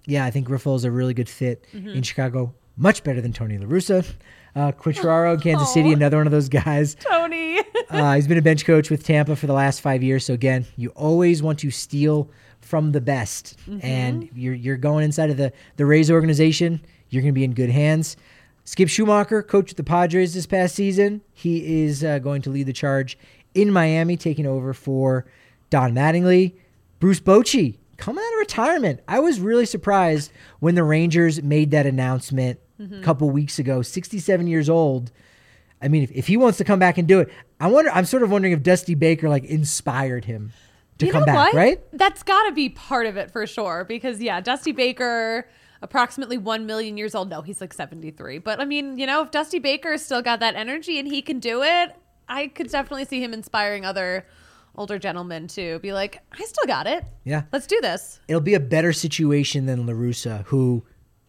Yeah, I think Grifol is a really good fit in Chicago. Much better than Tony La Russa. Quattraro, Kansas City, another one of those guys. Tony. He's been a bench coach with Tampa for the last 5 years. So again, you always want to steal from the best. And you're going inside of the Rays organization. You're going to be in good hands. Skip Schumacher coached the Padres this past season. He is going to lead the charge in Miami, taking over for Don Mattingly. Bruce Bochy coming out of retirement. I was really surprised when the Rangers made that announcement a couple weeks ago. 67 years old. I mean, if he wants to come back and do it, I'm sort of wondering if Dusty Baker inspired him to come back, right? That's got to be part of it for sure. Because Dusty Baker, approximately 1 million years old. No, he's 73. But I mean, if Dusty Baker's still got that energy and he can do it, I could definitely see him inspiring other older gentlemen to be like, I still got it. Yeah. Let's do this. It'll be a better situation than La Russa, who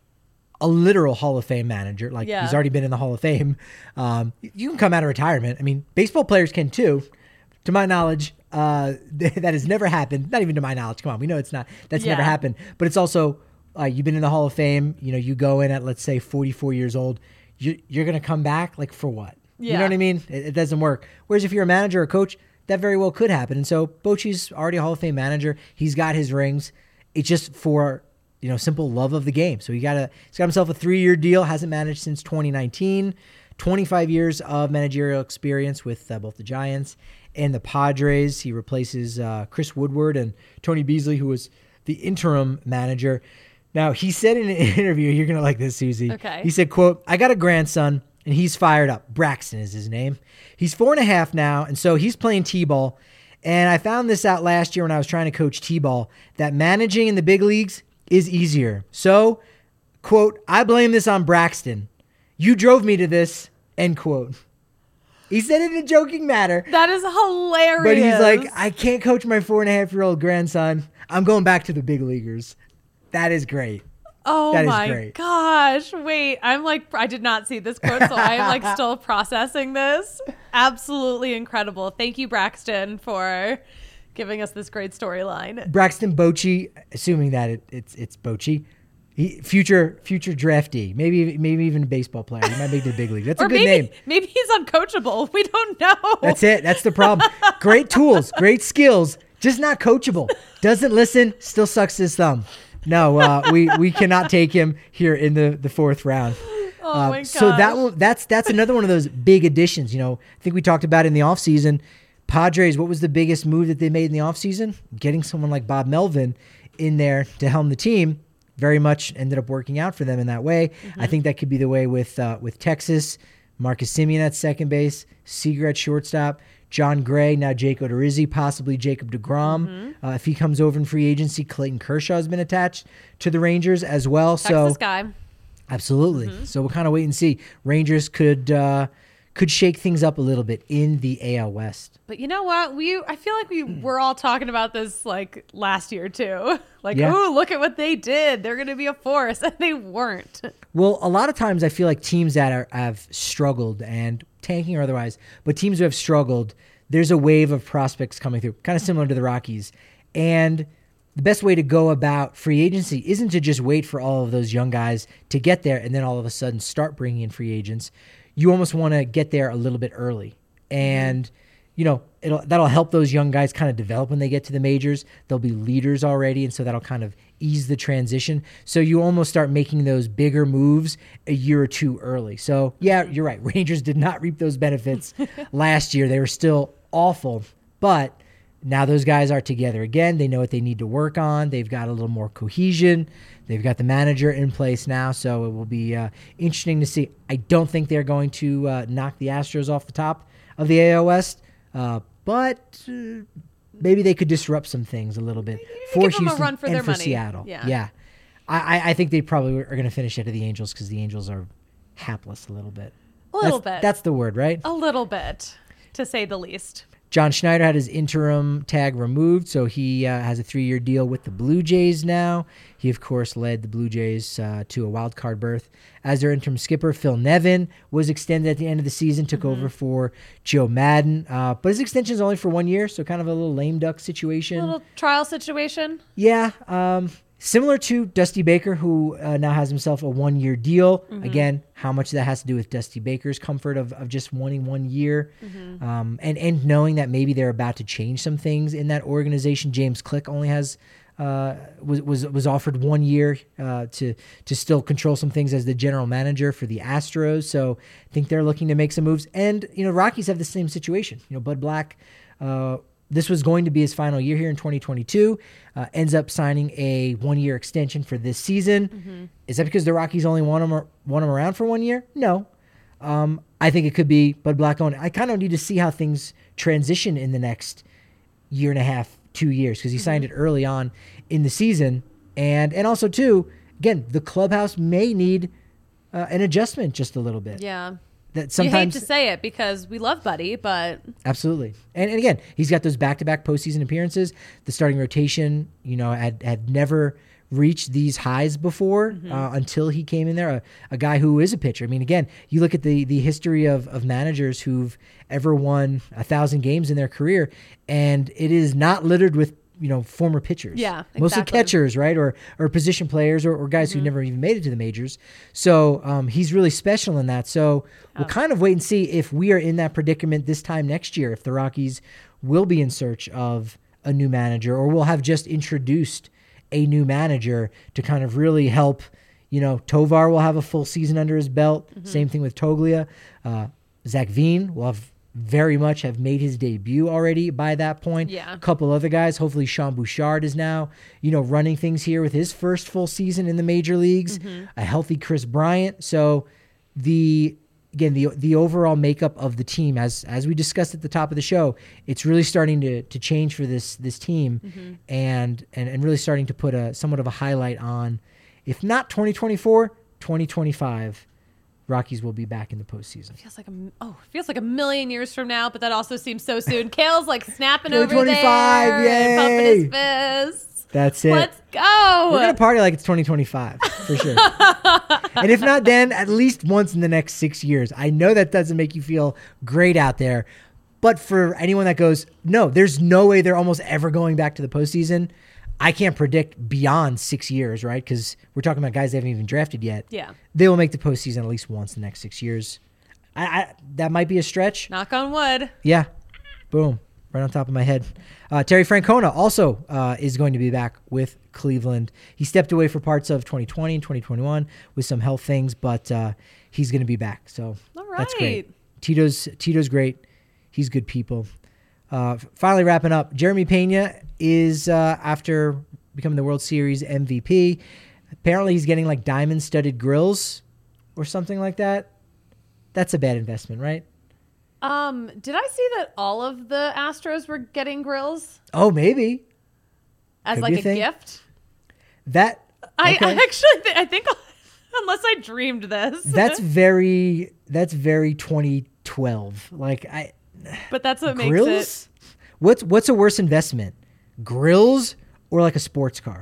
a literal Hall of Fame manager. He's already been in the Hall of Fame. You can come out of retirement. I mean, baseball players can too. To my knowledge, that has never happened. Not even to my knowledge. Come on, we know it's not. That's never happened. But it's also, you've been in the Hall of Fame. You go in at, let's say, 44 years old. You're going to come back, for what? Yeah. You know what I mean? It doesn't work. Whereas if you're a manager or a coach, that very well could happen. And so Bochy's already a Hall of Fame manager. He's got his rings. It's just for, simple love of the game. So he's got himself a 3-year deal. Hasn't managed since 2019. 25 years of managerial experience with both the Giants and the Padres. He replaces Chris Woodward and Tony Beasley, who was the interim manager. Now, he said in an interview, you're going to like this, Susie. Okay. He said, quote, "I got a grandson, and he's fired up." Braxton is his name. He's 4.5 now, and so he's playing T-ball. And I found this out last year when I was trying to coach T-ball, that managing in the big leagues is easier. So, quote, "I blame this on Braxton. You drove me to this," end quote. He said it in a joking manner. That is hilarious. But he's like, I can't coach my 4.5-year-old grandson. I'm going back to the big leaguers. That is great. Oh that my is great. gosh. Wait, I did not see this quote, so I am still processing this. Absolutely incredible. Thank you, Braxton, for giving us this great storyline. Braxton Bochy, assuming that it's Bochy, future draftee, maybe even a baseball player. He might make the big league. That's a good name. Maybe he's uncoachable. We don't know. That's it. That's the problem. Great tools, great skills, just not coachable. Doesn't listen, still sucks his thumb. No, we cannot take him here in the 4th round. Oh my gosh. So that's another one of those big additions. I think we talked about in the offseason. Padres, what was the biggest move that they made in the offseason? Getting someone like Bob Melvin in there to helm the team. Very much ended up working out for them in that way. I think that could be the way with Texas. Marcus Semien at second base, Seager at shortstop, John Gray, now Jake Odorizzi, possibly Jacob deGrom. If he comes over in free agency, Clayton Kershaw has been attached to the Rangers as well. Texas guy. Absolutely. So we'll kind of wait and see. Rangers could shake things up a little bit in the AL West. But you know what? I feel like we were all talking about this last year too. Oh, look at what they did. They're going to be a force, and they weren't. Well, a lot of times I feel like teams that have struggled, and tanking or otherwise, but teams who have struggled, there's a wave of prospects coming through, kind of similar to the Rockies. And the best way to go about free agency isn't to just wait for all of those young guys to get there and then all of a sudden start bringing in free agents. You almost want to get there a little bit early. And, that'll help those young guys kind of develop when they get to the majors. They'll be leaders already, and so that'll kind of ease the transition. So you almost start making those bigger moves a year or two early. So, yeah, you're right. Rangers did not reap those benefits last year. They were still awful. But now those guys are together again. They know what they need to work on. They've got a little more cohesion. They've got the manager in place now, so it will be interesting to see. I don't think they're going to knock the Astros off the top of the AL West, but maybe they could disrupt some things a little bit for Houston them a run for and their for money. Seattle. Yeah. I think they probably are going to finish ahead of the Angels because the Angels are hapless a little bit. A little bit. That's the word, right? A little bit, to say the least. John Schneider had his interim tag removed, so he has a 3-year deal with the Blue Jays now. He, of course, led the Blue Jays to a wild card berth as their interim skipper. Phil Nevin was extended at the end of the season, took over for Joe Madden. But his extension is only for 1 year, so kind of a little lame duck situation. A little trial situation. Yeah. Similar to Dusty Baker, who now has himself a 1-year deal. Again, how much of that has to do with Dusty Baker's comfort of just wanting 1 year, and knowing that maybe they're about to change some things in that organization. James Click only has was offered 1 year to still control some things as the general manager for the Astros. So I think they're looking to make some moves. And Rockies have the same situation. Bud Black. This was going to be his final year here in 2022. Ends up signing a 1-year extension for this season. Is that because the Rockies only want him around for 1 year? No. I think it could be Bud Black owned. I kind of need to see how things transition in the next year and a half, 2 years, because he signed it early on in the season. And also, too, again, the clubhouse may need an adjustment just a little bit. Yeah. That sometimes you hate to say it because we love Buddy, but absolutely. And again, he's got those back-to-back postseason appearances. The starting rotation, had never reached these highs before until he came in there. A guy who is a pitcher. I mean, again, you look at the history of managers who've ever won 1,000 games in their career, and it is not littered with former pitchers. Yeah, exactly. Mostly catchers, right? Or position players or guys who never even made it to the majors. So he's really special in that. So we'll kind of wait and see if we are in that predicament this time next year, if the Rockies will be in search of a new manager, or will have just introduced a new manager to kind of really help. Tovar will have a full season under his belt. Same thing with Toglia. Zach Veen will very much have made his debut already by that point. Yeah. A couple other guys. Hopefully Sean Bouchard is now, running things here with his first full season in the major leagues. A healthy Chris Bryant. So the overall makeup of the team, as we discussed at the top of the show, it's really starting to change for this team, and really starting to put somewhat of a highlight on, if not 2024, 2025. Rockies will be back in the postseason. Feels like a million years from now, but that also seems so soon. Kale's like snapping over 2025, there, yay! and pumping his fists. That's it. Let's go. We're gonna party like it's 2025 for sure. And if not then, at least once in the next 6 years. I know that doesn't make you feel great out there, but for anyone that goes, no, there's no way they're almost ever going back to the postseason. I can't predict beyond 6 years, right? Because we're talking about guys they haven't even drafted yet. Yeah. They will make the postseason at least once in the next 6 years. That might be a stretch. Knock on wood. Yeah. Boom. Right on top of my head. Terry Francona also is going to be back with Cleveland. He stepped away for parts of 2020 and 2021 with some health things, but he's going to be back. So that's great. Tito's great. He's good people. Finally wrapping up, Jeremy Pena is, after becoming the World Series MVP, apparently he's getting like diamond-studded grills or something like that. That's a bad investment, right? Did I see that all of the Astros were getting grills? Oh, maybe. As Could like be a thing. gift? Okay. I think, unless I dreamed this. That's very 2012. But that's what grills? makes it. What's a worse investment? Grills or like a sports car?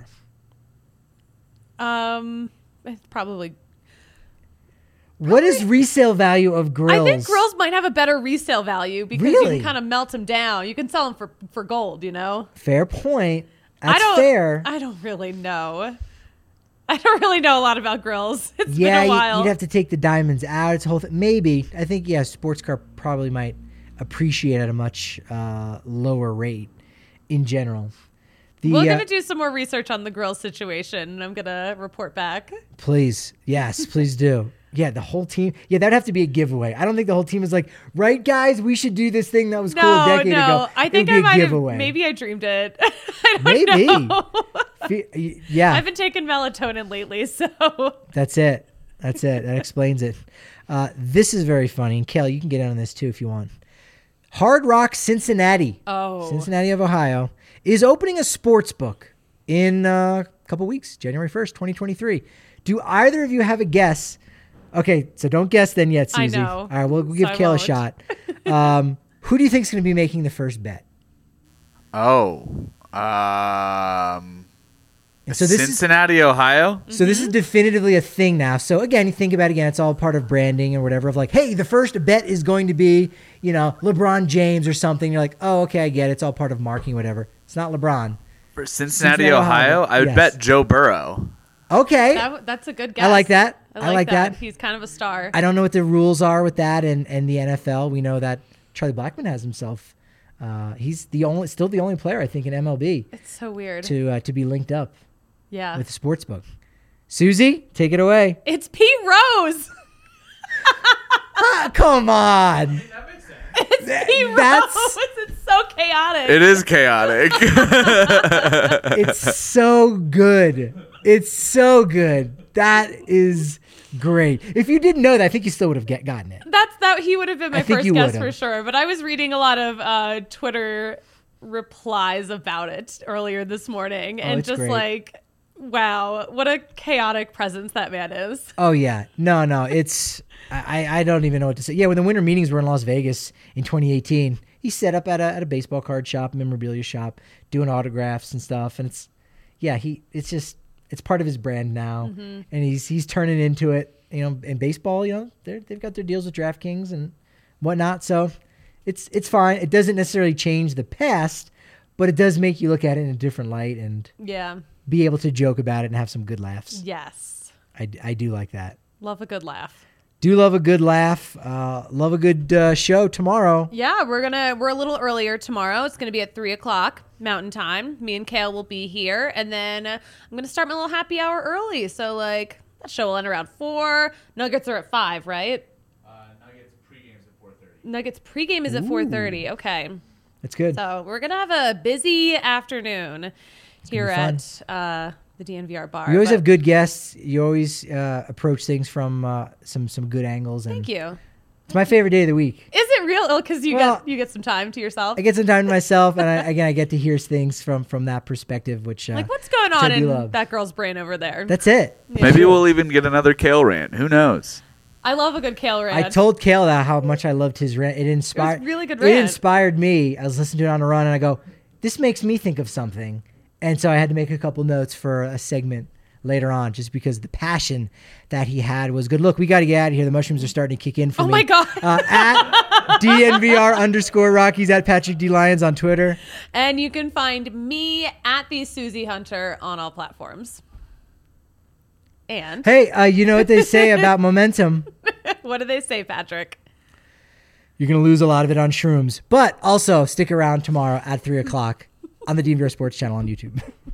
It's probably. What is resale value of grills? I think grills might have a better resale value because you can kind of melt them down. You can sell them for gold, Fair point. That's fair. I don't really know. I don't really know a lot about grills. It's been a while. You'd have to take the diamonds out. It's a whole thing. Maybe. I think, sports car probably might appreciate at a much lower rate in general. We're going to do some more research on the grill situation, and I'm going to report back. Please. Yes, please do. Yeah, the whole team. Yeah, that'd have to be a giveeway. I don't think the whole team is like, right, guys, we should do this thing that was cool a decade ago. I think I might have. Maybe I dreamed it. I don't know. Yeah. I've been taking melatonin lately, so. That's it. That explains it. This is very funny. And Kel, you can get in on this too if you want. Hard Rock Cincinnati. Oh. Cincinnati of Ohio is opening a sports book in a couple weeks, January 1st, 2023. Do either of you have a guess? Okay, so don't guess then yet, Susie. I know. All right, we'll give Kel a shot. Who do you think is going to be making the first bet? So Cincinnati, Ohio? So this is definitively a thing now. So again, you think about it again, it's all part of branding or whatever of like, hey, the first bet is going to be, LeBron James or something. You're like, oh, okay, I get it. It's all part of marketing, whatever. It's not LeBron. For Cincinnati, Ohio, I would bet Joe Burrow. Okay. That's a good guess. I like that. I like that. He's kind of a star. I don't know what the rules are with that and the NFL. We know that Charlie Blackmon has himself. He's still the only player I think in MLB. It's so weird to be linked up. Yeah. With the sportsbook. Susie, take it away. It's Pete Rose. Come on. It's Pete Rose. It's so chaotic. It is chaotic. It's so good. It's so good. That is great. If you didn't know that, I think you still would have gotten it. He would have been my first guess for sure. But I was reading a lot of Twitter replies about it earlier this morning, and just great. Like, wow, what a chaotic presence that man is. Oh yeah, no, it's I don't even know what to say. Yeah, when the winter meetings were in Las Vegas in 2018, he set up at a baseball card shop, memorabilia shop, doing autographs and stuff, and it's part of his brand now, and he's turning into it. You know, in baseball, you know, they've got their deals with DraftKings and whatnot, so it's fine. It doesn't necessarily change the past, but it does make you look at it in a different light and be able to joke about it and have some good laughs. Yes, I do like that. Love a good laugh. Do love a good laugh. Love a good show tomorrow. Yeah, we're a little earlier tomorrow. It's gonna be at 3:00 Mountain Time. Me and Kale will be here, and then I'm gonna start my little happy hour early. So like that show will end around 4. Nuggets are at 5, right? Nuggets pregame is at 4:30. Okay, that's good. So we're gonna have a busy afternoon here at the DNVR bar. You always have good guests. You always approach things from some good angles. And thank you. It's my favorite day of the week. Is it real? Because you get some time to yourself. I get some time to myself, and I get to hear things from that perspective. Which like what's going on in that girl's brain over there? That's it. Yeah. Maybe we'll even get another Kale rant. Who knows? I love a good Kale rant. I told Kale that how much I loved his rant. It inspired. It was really good rant. It inspired me. I was listening to it on a run, and I go, "This makes me think of something." And so I had to make a couple notes for a segment later on, just because the passion that he had was good. Look, we got to get out of here. The mushrooms are starting to kick in for me. Oh my God. At DNVR_Rockies, at Patrick D. Lyons on Twitter. And you can find me at the Susie Hunter on all platforms. And hey, you know what they say about momentum? What do they say, Patrick? You're going to lose a lot of it on shrooms. But also stick around tomorrow at 3:00 on the DNVR Sports channel on YouTube.